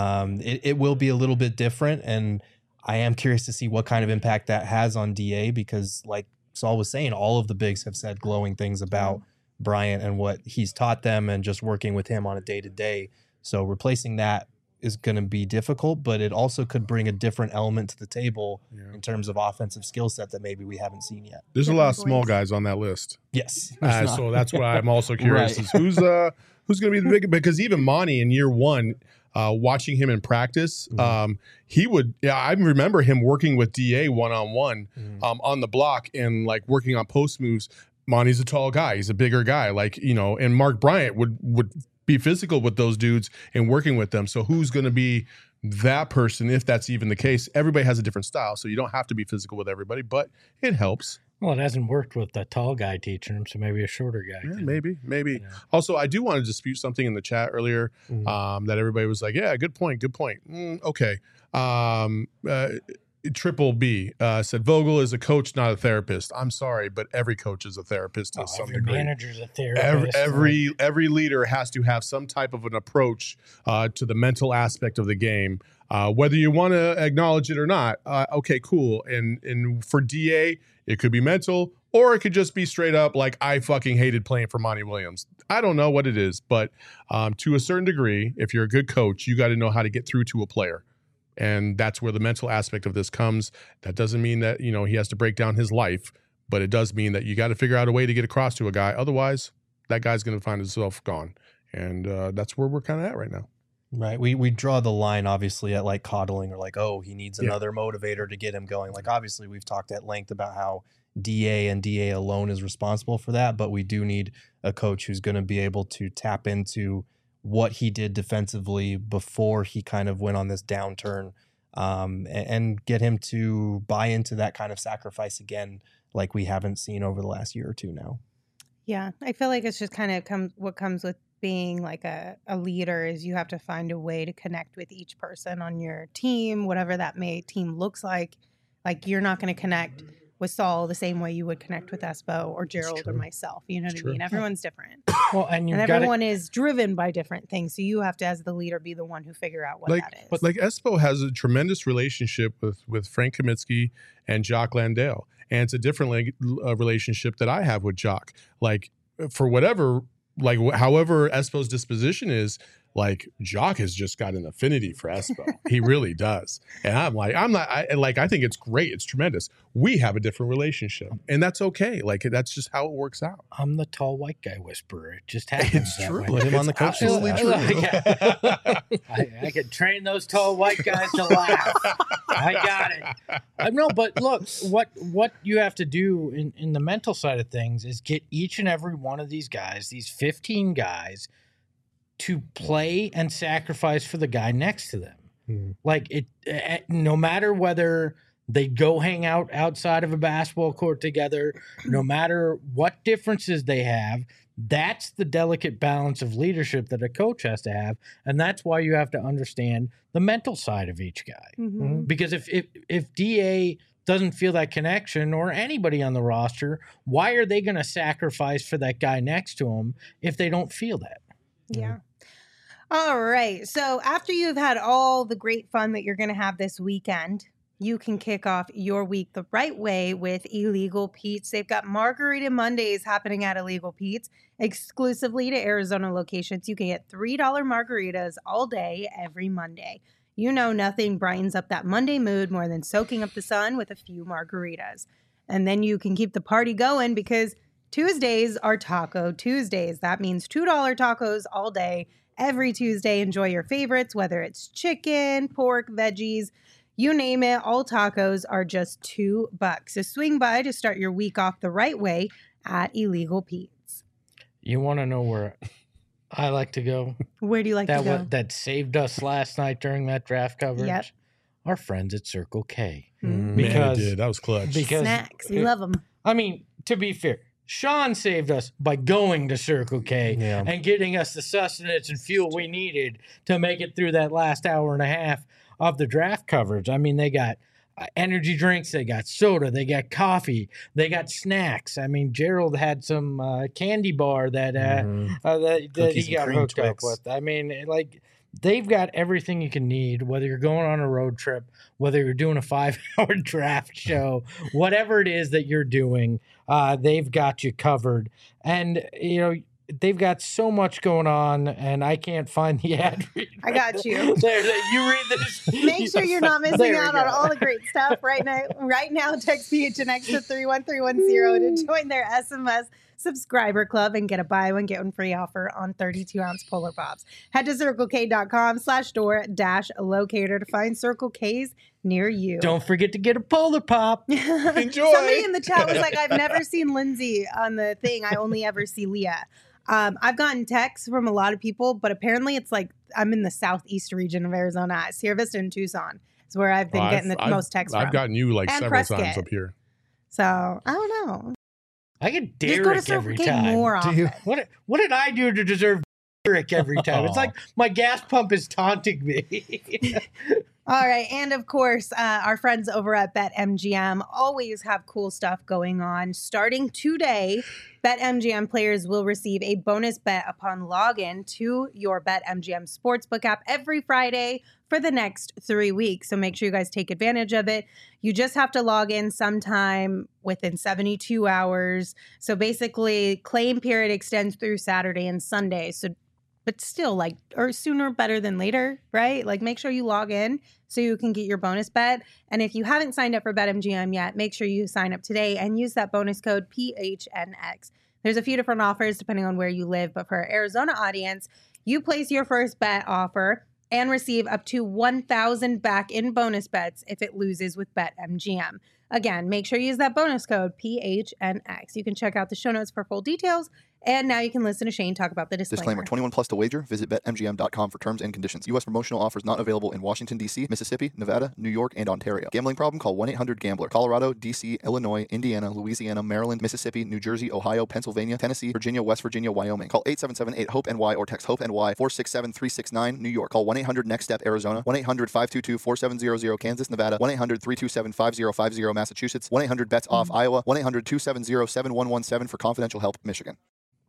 it will be a little bit different, and I am curious to see what kind of impact that has on DA, because like Saul was saying, all of the bigs have said glowing things about Bryant and what he's taught them and just working with him on a day-to-day. So replacing that is going to be difficult, but it also could bring a different element to the table in terms of offensive skill set that maybe we haven't seen yet. There's a lot of small guys on that list. Yes. So that's why I'm also curious is who's going to be the big, because even Monty in year one, watching him in practice, he would, I remember him working with DA one-on-one on the block and like working on post moves. Monty's a tall guy. He's a bigger guy. And Mark Bryant would be physical with those dudes and working with them. So who's going to be that person, if that's even the case? Everybody has a different style, so you don't have to be physical with everybody, but it helps. Well, it hasn't worked with the tall guy teaching him, so maybe a shorter guy. Yeah, maybe. Also, I do want to dispute something in the chat earlier that everybody was like, yeah, good point. Okay. Triple B said Vogel is a coach, not a therapist. I'm sorry, but every coach is a therapist to some degree. Every manager's a therapist. Every leader has to have some type of an approach to the mental aspect of the game, whether you want to acknowledge it or not. Okay, cool. And for DA, it could be mental, or it could just be straight up like, I fucking hated playing for Monty Williams. I don't know what it is, but to a certain degree, if you're a good coach, you got to know how to get through to a player. And that's where the mental aspect of this comes. That doesn't mean that, he has to break down his life, but it does mean that you got to figure out a way to get across to a guy. Otherwise, that guy's going to find himself gone. And that's where we're kind of at right now. Right. We draw the line, obviously, at like coddling or like, oh, he needs another motivator to get him going. Like, obviously, we've talked at length about how DA and DA alone is responsible for that. But we do need a coach who's going to be able to tap into what he did defensively before he kind of went on this downturn, and get him to buy into that kind of sacrifice again, like we haven't seen over the last year or two now. Yeah, I feel like it's just kind of what comes with being like a leader is you have to find a way to connect with each person on your team, whatever that team looks like. Like you're not going to connect with Saul the same way you would connect with Espo or Gerald or true. myself. You know what It's I mean? true. Everyone's different. Well, and you've got everyone is driven by different things. So you have to, as the leader, be the one who figure out what that is. But like Espo has a tremendous relationship with Frank Kaminsky and Jock Landale, and it's a different relationship that I have with Jock. Like for whatever, like however Espo's disposition is, like Jock has just got an affinity for Espo. He really does. And I think it's great. It's tremendous. We have a different relationship, and that's okay. Like that's just how it works out. I'm the tall white guy whisperer. It just happens. It's that true. way. Put him on the It's coach absolutely list. true. I could train those tall white guys to laugh. I got it. No, but look, what you have to do in the mental side of things is get each and every one of these guys, these 15 guys, to play and sacrifice for the guy next to them. Like no matter whether they go hang out outside of a basketball court together, no matter what differences they have, that's the delicate balance of leadership that a coach has to have. And that's why you have to understand the mental side of each guy. Mm-hmm. Because if DA doesn't feel that connection, or anybody on the roster, why are they going to sacrifice for that guy next to him if they don't feel that? Yeah. All right. So after you've had all the great fun that you're going to have this weekend, you can kick off your week the right way with Illegal Pete's. They've got Margarita Mondays happening at Illegal Pete's exclusively to Arizona locations. You can get $3 margaritas all day, every Monday. You know nothing brightens up that Monday mood more than soaking up the sun with a few margaritas. And then you can keep the party going because Tuesdays are Taco Tuesdays. That means $2 tacos all day. Every Tuesday, enjoy your favorites, whether it's chicken, pork, veggies, you name it. All tacos are just $2. So swing by to start your week off the right way at Illegal Pete's. You want to know where I like to go? Where do you like to go? That saved us last night during that draft coverage? Yep. Our friends at Circle K. Mm. Man, it Because- did. That was clutch. because- Snacks. We love them. I mean, to be fair, Sean saved us by going to Circle K Yeah. and getting us the sustenance and fuel we needed to make it through that last hour and a half of the draft coverage. I mean, they got energy drinks, they got soda, they got coffee, they got snacks. I mean, Gerald had some candy bar that that Cookies he and got cream hooked up Twix. with. I mean, like, they've got everything you can need, whether you're going on a road trip, whether you're doing a 5-hour draft show, whatever it is that you're doing, they've got you covered. And, you know, they've got so much going on, and I can't find the ad read. I got you. There, you read this. Make sure you're not missing There we out go. on all the great stuff right now. Right now, text PHNX to 31310 to join their SMS subscriber club and get a buy one, get one free offer on 32-ounce Polar Pops. Head to circlek.com/store-locator to find Circle K's near you. Don't forget to get a Polar Pop. Enjoy. Somebody in the chat was like, I've never seen Lindsay on the thing. I only ever see Leah. I've gotten texts from a lot of people, but apparently it's like I'm in the southeast region of Arizona. At Sierra Vista and Tucson is where I've been getting the most texts from. I've gotten you like And several Prescott. times up here. So I don't know. I get Just go to Derek Circle every K time. more Do you? often. What did I do to deserve Derek every time? It's Aw. like my gas pump is taunting me. All right. And of course, our friends over at BetMGM always have cool stuff going on. Starting today, BetMGM players will receive a bonus bet upon login to your BetMGM Sportsbook app every Friday for the next 3 weeks. So make sure you guys take advantage of it. You just have to log in sometime within 72 hours. So basically, claim period extends through Saturday and Sunday. So but still, like, or sooner better than later, right? Like, make sure you log in so you can get your bonus bet. And if you haven't signed up for BetMGM yet, make sure you sign up today and use that bonus code PHNX. There's a few different offers depending on where you live, but for our Arizona audience, you place your first bet offer and receive up to $1,000 back in bonus bets if it loses with BetMGM. Again, make sure you use that bonus code PHNX. You can check out the show notes for full details. And now you can listen to Shane talk about the disclaimer. 21 plus to wager. Visit BetMGM.com for terms and conditions. U.S. promotional offers not available in Washington, D.C., Mississippi, Nevada, New York, and Ontario. Gambling problem? Call 1-800-GAMBLER. Colorado, D.C., Illinois, Indiana, Louisiana, Maryland, Mississippi, New Jersey, Ohio, Pennsylvania, Tennessee, Virginia, West Virginia, Wyoming. Call 877-8-HOPE-NY or text HOPE-NY 467-369, New York. Call 1-800-NEXT-STEP, Arizona. 1-800-522-4700, Kansas, Nevada. 1-800-327-5050, Massachusetts. 1-800-BETS-OFF, Iowa. 1-800-270-7117 for confidential help, Michigan.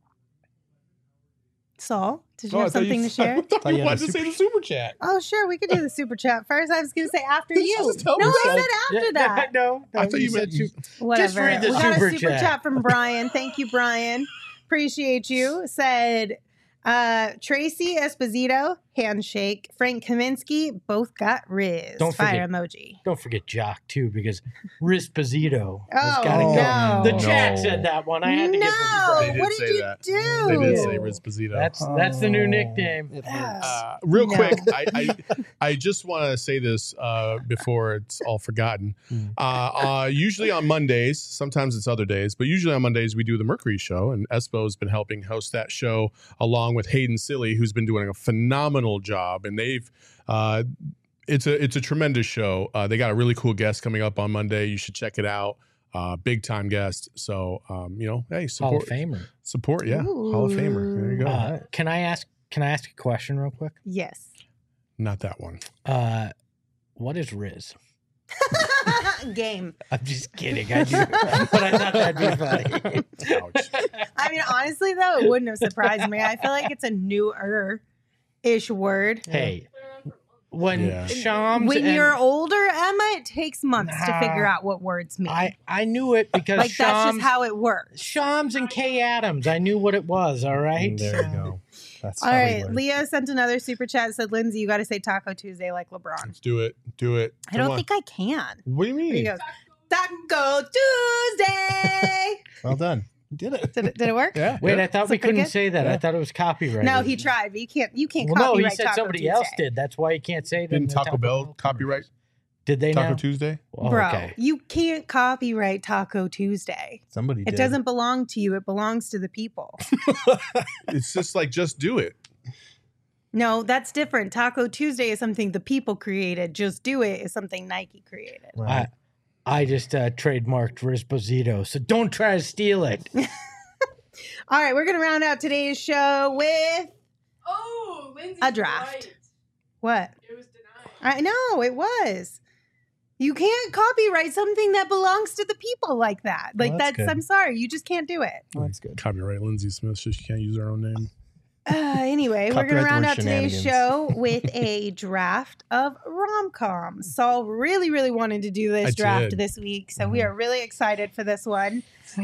Saul, did you have something to share? I thought you wanted to say the super chat. Oh, sure. We could do the super chat first. I was going to say after you. Just tell No, me I so. said after that. No, I thought you meant Whatever. Just read the we got super a super chat. chat from Brian. Thank you, Brian. Appreciate you. Said Tracy Esposito, handshake. Frank Kaminsky, both got Riz. Don't Fire forget- emoji. Don't forget Jock too, because Rizposito has Oh, got to no. go. The chat No. said that one. I had to give them No, credit. They what did did say you that. do? They did say Rizposito. That's the new nickname. Real No. quick, I just want to say this before it's all forgotten. Usually on Mondays, sometimes it's other days, but usually on Mondays we do the Mercury Show, and Espo has been helping host that show along with Hayden Silly, who's been doing a phenomenal job, and they've. It's a tremendous show. They got a really cool guest coming up on Monday. You should check it out. Big time guest. So hey, Hall of support. Famer. Support, yeah. Hall of Famer. There you go. Can I ask a question real quick? Yes. Not that one. What is Riz? Game. I'm just kidding. I do, but I thought that'd be funny. Ouch. I mean, honestly, though, it wouldn't have surprised me. I feel like it's a newer-ish word. Hey, when Yeah. Shams When and- you're older, Emma, it takes months to Nah. figure out what words mean. I knew it because like, that's just how it works. Shams and Kay Adams. I knew what it was. All right. There you go. That's All how we right. learn. Leo sent another super chat. Said, Lindsay, you got to say Taco Tuesday like LeBron. Let's do it. Do it. I don't think I can. What do you mean? Here you go. Taco Tuesday. Well done. You did it. Did it work? Yeah. Wait, I thought Is we it pretty couldn't good? say that. I thought it was copyrighted. No, he tried, but you can't Well, no, copyright he said Taco somebody Tuesday. else did. That's why you can't say that. Didn't Taco Bell copyright Did they Taco now? Tuesday? Oh, Bro, okay. you can't copyright Taco Tuesday. Somebody It did. doesn't belong to you. It belongs to the people. It's just like, just do it. No, that's different. Taco Tuesday is something the people created. Just Do It is something Nike created. Right. I just trademarked Rizposito, so don't try to steal it. All right, we're going to round out today's show with Oh, Lindsay's A draft. right. what? It was denied. I know, it was. You can't copyright something that belongs to the people like that. Like, Well, that's good. I'm sorry. You just can't do it. Well, that's good. Copyright Lindsay Smith, so she can't use her own name. Anyway, we're going to Copyright the round word out today's shenanigans. show with a draft of rom-coms. Saul really, really wanted to do this I draft did. this week, so we are really excited for this one.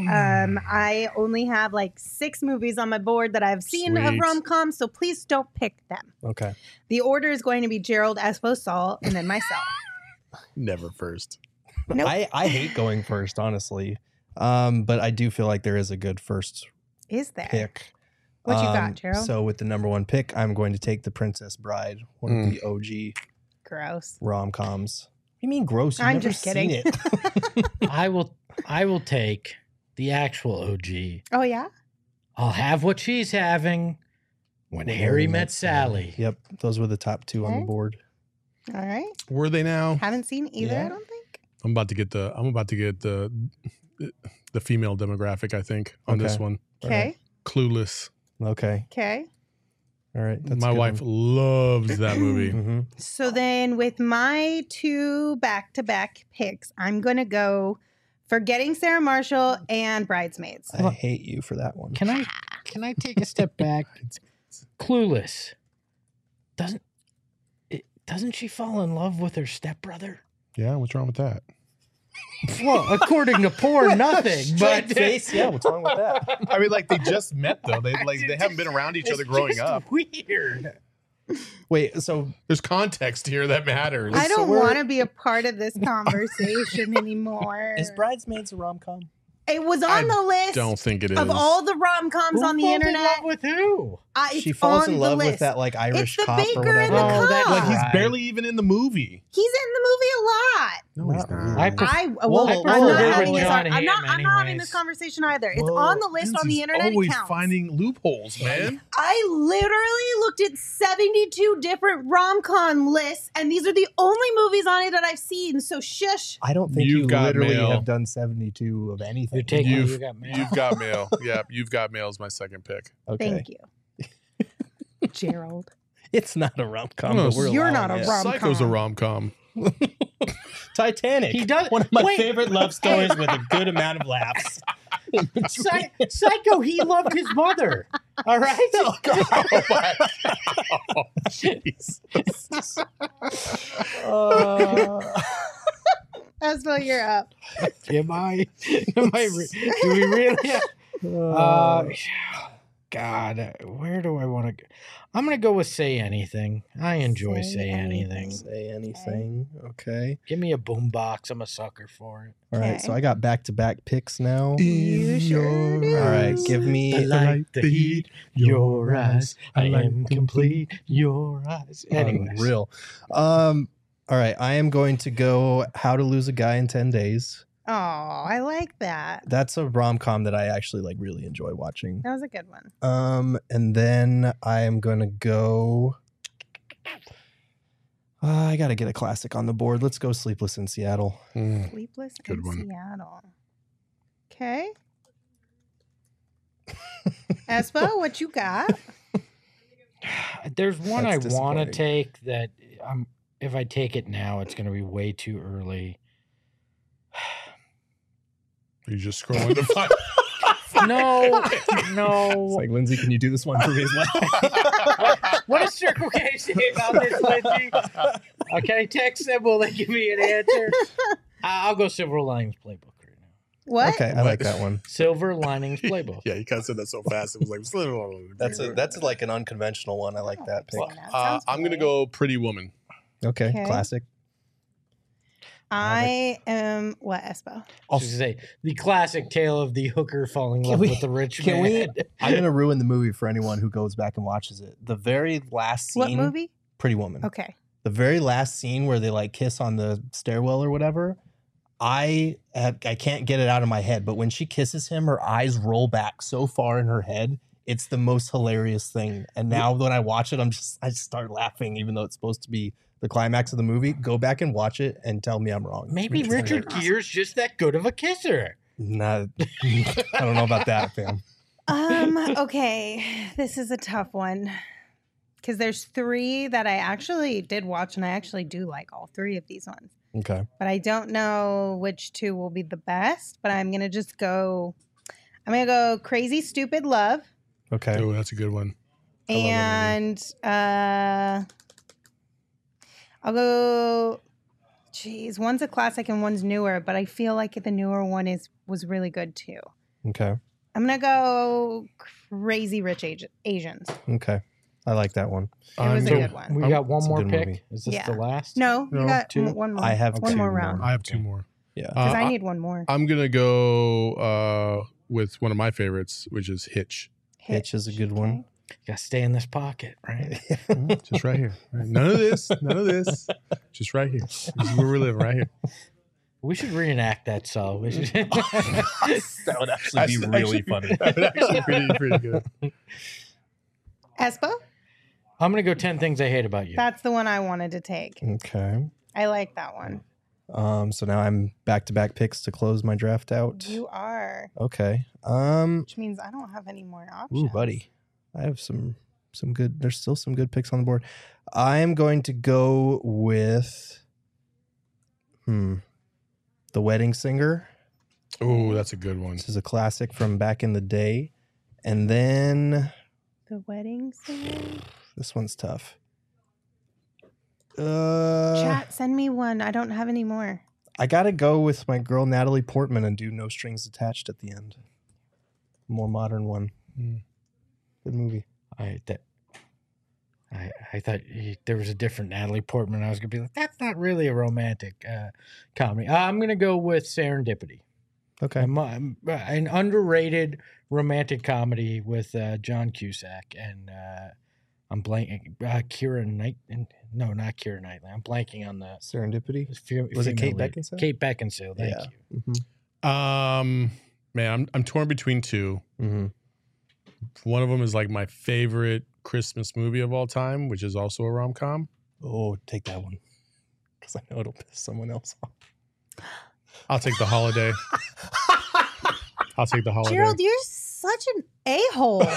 I only have like 6 movies on my board that I've seen of Sweet. rom-coms, so please don't pick them. Okay. The order is going to be Gerald, Espo, Saul, and then myself. Never first. Nope. I hate going first, honestly. But I do feel like there is a good first Is there? pick. What you got, Gerald? So with the number 1 pick, I'm going to take The Princess Bride, one of the OG Gross. rom-coms. What do you mean gross? You've I'm never just seen kidding. it. I will take the actual OG. Oh, yeah? I'll have what she's having when Harry met Sally. Yep. Those were the top 2 on Okay. the board. All right. Were they now? Haven't seen either, Yeah. I don't think. I'm about to get the female demographic, I think, on this Okay. one. Okay. Clueless. Okay. Okay. All right. That's My wife loves that movie. hmm So then with my 2 back-to-back picks, I'm going to go Forgetting Sarah Marshall and Bridesmaids. I hate you for that one. Can I take a step back? Clueless. Doesn't she fall in love with her stepbrother? Yeah, what's wrong with that? Well, according to porn, nothing. But face. Yeah. What's wrong with that? I mean, like they just met though. They haven't been around each other it's growing just up. Weird. Wait. So There's context here that matters. I don't we're- want to be a part of this conversation anymore. is Bridesmaids a rom-com? It was I on the list Don't think it is. of all the rom-coms on the Who falls in internet. love with who? It's She falls on in the love with list. that like Irish the cop or baker and whatever. the Oh, that- cop. Like he's Right. barely even in the movie. He's in the movie a lot. No, he's not. I prefer- I Whoa, well, whoa, I'm whoa, not whoa, having whoa, this. John I'm not. Hamm I'm not having anyways. this conversation either. It's Well, on the list on the Lindsay's internet. always It counts. finding loopholes, man. I literally looked at 72 different rom-com lists, and these are the only movies on it that I've seen. So shush. I don't think You've you got literally mail. have done 72 of anything. You're taking. You've- You got mail. You've got mail. Yeah, you've got mail is my second pick. Okay. Thank you, Gerald. It's not a rom com, No, but we're you're allowing not a it. rom- Psycho's a Rom-com. rom-com. Titanic. He does- one of my wait. favorite love stories with a good amount of laughs. Psycho, he loved his mother. All right. Oh my God. Jesus. That's what you're up. Am I? Do we really? God, where do I want to go? I'm gonna go with Say Anything. I enjoy Say Anything. Say anything. Okay. Give me a boombox. I'm a sucker for it. All right. Okay. So I got back-to-back picks now. You sure do. All right. Give me. The light, the heat, your eyes. I am complete. Your eyes. Anyways. Real. All right. I am going to go How to Lose a Guy in 10 Days. Oh, I like that. That's a rom-com that I actually like really enjoy watching. That was a good one. And then I am going to go. I got to get a classic on the board. Let's go Sleepless in Seattle. Sleepless Good in one. Seattle. Okay. Espo, what you got? There's one That's I want to disappointing. take that if I take it now, it's going to be way too early. You just scrolling to find. No. It's like, Lindsay, can you do this one for me as well? What does Circle K say about this, Lindsay? Okay, text them. Will they give me an answer? I'll go Silver Linings Playbook right now. What? Okay, I like that one. Silver Linings Playbook. Yeah, you kind of said that so fast. It was like That's like an unconventional one. I like that pick. That sounds I'm gonna great. go Pretty Woman. Okay, Okay. classic. I am what, Espo? I was gonna say the classic tale of the hooker falling in love we- with the rich Can we? man. I'm gonna ruin the movie for anyone who goes back and watches it. The very last scene. What movie? Pretty Woman. Okay. The very last scene where they like kiss on the stairwell or whatever. I can't get it out of my head, but when she kisses him, her eyes roll back so far in her head. It's the most hilarious thing. And now when I watch it, I just start laughing, even though it's supposed to be the climax of the movie. Go back and watch it and tell me I'm wrong. Maybe It's Richard hilarious. Gere's just that good of a kisser. Nah, I don't know about that, fam. Okay. This is a tough one. Because there's three that I actually did watch, and I actually do like all three of these ones. Okay. But I don't know which two will be the best. But I'm gonna just go. I'm gonna go Crazy Stupid Love, Okay. Oh, that's a good one. I love that and I'll go. Geez, one's a classic and one's newer, but I feel like the newer one was really good too. Okay. I'm gonna go Crazy Rich Asians. Okay. I like that one. It was a I'm- good one. We got one It's a more good pick. movie. Is this Yeah. the last? No, you No, got two? one more. I have one two more more. round. I have two more. Yeah. Because I I- need one more. I'm gonna go with one of my favorites, which is Hitch. Hitch is a good one. You gotta stay in this pocket, right? Just right here. None of this. None of this. Just right here. This is where we're living, right here. We should reenact that song. We should. That would actually be really funny. That would actually be pretty good. Espo? I'm gonna go 10 Things I Hate About You. That's the one I wanted to take. Okay. I like that one. So now I'm back-to-back picks to close my draft out. You are. Okay. Which means I don't have any more options. Ooh, buddy. I have some good. There's still some good picks on the board. I am going to go with The Wedding Singer. Oh, that's a good one. This is a classic from back in the day. And then The Wedding Singer? this one's tough. Uh, Chat, send me one. I don't have any more. I gotta go with my girl Natalie Portman and do No Strings Attached at the end. More modern one. Mm. Good movie. I thought there was a different Natalie Portman. I was gonna be like, that's not really a romantic comedy. I'm gonna go with Serendipity. Okay. An underrated romantic comedy with John Cusack and I'm blanking. Keira Knight. No, not Keira Knightley. I'm blanking on the Serendipity. Was it Kate Beckinsale? Kate Beckinsale. Thank you. Mm-hmm. Man, I'm torn between two. Mm-hmm. One of them is like my favorite Christmas movie of all time, which is also a rom-com. Oh, take that one. Because I know it'll piss someone else off. I'll take The Holiday. I'll take The Holiday. Gerald, you're such an a-hole.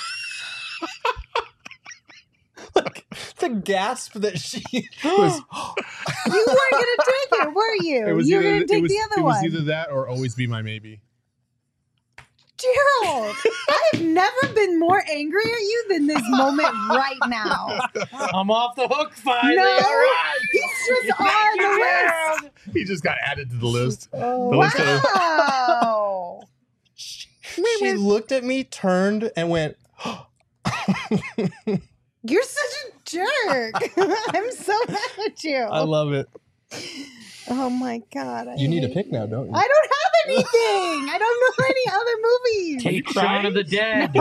Like, the gasp that she You was. weren't going to take it, were you? You were going to take the other one. It was either that or Always Be My Maybe. Gerald, I have never been more angry at you than this moment right now. I'm off the hook finally. No, All right. he's just on the list. He just got added to the list. Oh, The list of- wow. She looked at me, turned, and went. You're such a jerk. I'm so mad at you. I love it. Oh my God. You need a hate pick now, don't you? I don't have anything. I don't know any other movies. Take Shaun of the Dead.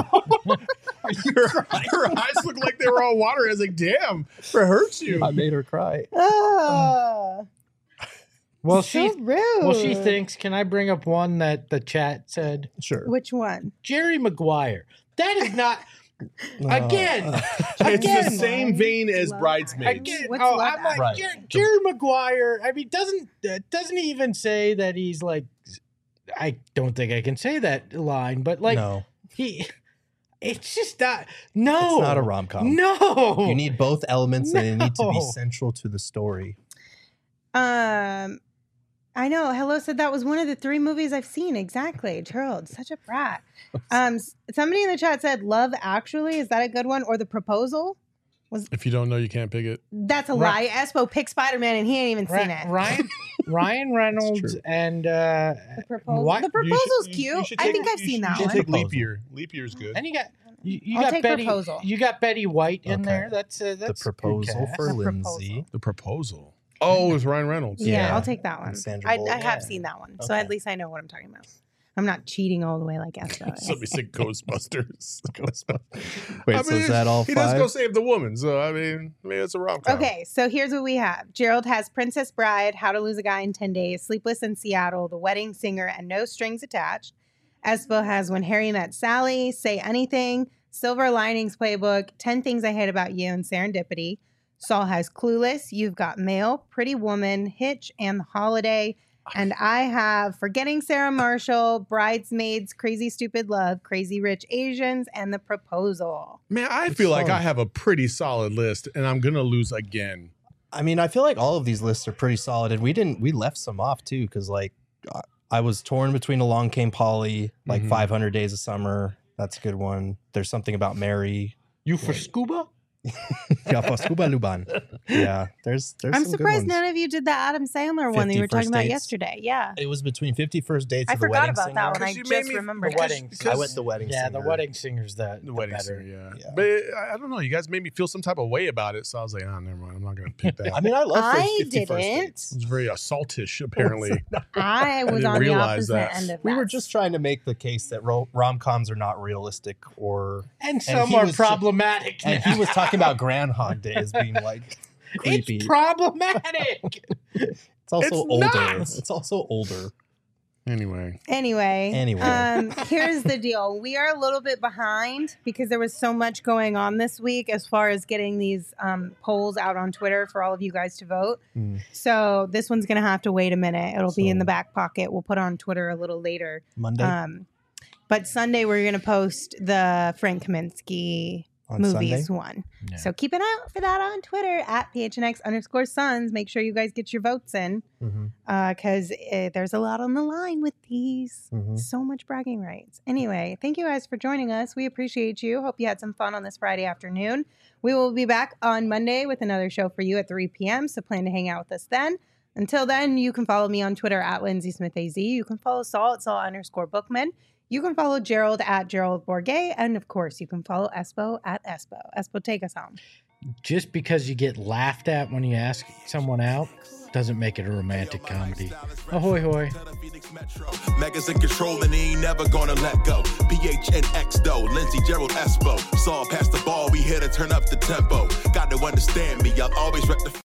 Her eyes look like they were all water. I was like, damn, it hurts you. I made her cry. Oh, Well, so rude. she thinks. Can I bring up one that the chat said? Sure. Which one? Jerry Maguire. That is not. Again, It's again, the same vein as Bridesmaids. Again, What's I'm Love like Right. Jerry Maguire. I mean, doesn't he even say that he's like? I don't think I can say that line, but like no, he. It's just not. No, it's not a rom-com. No, You need both elements and they need to be No. central to the story. I know. Hello said that was one of the 3 movies I've seen. Exactly. Gerald, such a brat. Somebody in the chat said Love Actually. Is that a good one? Or The Proposal? If you don't know, you can't pick it. That's a lie. Espo picked Spider-Man and he ain't even seen it. Ryan Reynolds true. and The Proposal. What? The Proposal's You cute. should I take- think I've seen that You one. should take Leap Proposal. Year. Leap Year's good. and you I'll got take Betty. Proposal. You got Betty White in Okay. there. That's The good proposal cast. for The Lindsay. The Proposal. Oh, with Ryan Reynolds. Yeah, Yeah. I'll take that one. And Sandra I Bullock. have seen that one. So Okay. at least I know what I'm talking about. I'm not cheating all the way like Espo is. Somebody said Ghostbusters. Wait, I so mean, is that all he does 5? go save the woman. So, I mean, maybe it's a rom-com. Okay, so here's what we have. Gerald has Princess Bride, How to Lose a Guy in 10 Days, Sleepless in Seattle, The Wedding Singer, and No Strings Attached. Espo has When Harry Met Sally, Say Anything, Silver Linings Playbook, 10 Things I Hate About You, and Serendipity. Saul has Clueless, You've Got Mail, Pretty Woman, Hitch, and The Holiday. And I have Forgetting Sarah Marshall, Bridesmaids, Crazy Stupid Love, Crazy Rich Asians, and The Proposal. Man, I feel like fun. I have a pretty solid list, and I'm going to lose again. I mean, I feel like all of these lists are pretty solid, and we left some off too, because like I was torn between Along Came Polly, like Mhm. 500 Days of Summer. That's a good one. There's something about Mary. You for scuba? Yeah, for Scuba Luban. Yeah, there's I'm some good surprised ones. none of you did the Adam Sandler one that you were 50 talking First about Dates. yesterday. Yeah. It was between 50 First Dates I and The forgot Wedding about Singer. that one. I Because you made just me- remembered The it. wedding. I went The Wedding Yeah, Singer. the wedding singer's the Wedding better. Singer, yeah. Yeah. But I don't know. You guys made me feel some type of way about it. So I was like, oh, never mind. I'm not going to pick that. I mean, I love I 50 First didn't. Dates. It's very assaultish, apparently. I was didn't on the realize opposite that. end of We that. were just trying to make the case that rom-coms are not realistic, or And some he are was problematic. and he was talking about Groundhog Day as being like creepy. It's problematic. It's also It's older. not! It's also older. Anyway. Anyway, here's the deal. We are a little bit behind because there was so much going on this week as far as getting these polls out on Twitter for all of you guys to vote. Mm. So this one's going to have to wait a minute. It'll be in So- the back pocket. We'll put it on Twitter a little later. Monday But Sunday, we're going to post the Frank Kaminsky on movies Sunday. one. Yeah. So keep an eye out for that on Twitter at PHNX_Sons. Make sure you guys get your votes in Mhm, because there's a lot on the line with these. mhm. So much bragging rights. Anyway, thank you guys for joining us. We appreciate you. Hope you had some fun on this Friday afternoon. We will be back on Monday with another show for you at 3 p.m. So plan to hang out with us then. Until then, you can follow me on Twitter at LindsaySmithAZ. You can follow Saul at Saul_Bookman. You can follow Gerald at Gerald Bourget. And of course, you can follow Espo at Espo. Espo, take us home. just because you get laughed at when you ask someone out doesn't make it a romantic comedy. Ahoy hoy. Megas in control and he ain't never gonna let go. PHNX though, Lindsey Gerald Espo. Saw past the ball, we here to turn up the tempo. Got to understand me, I'll always rep the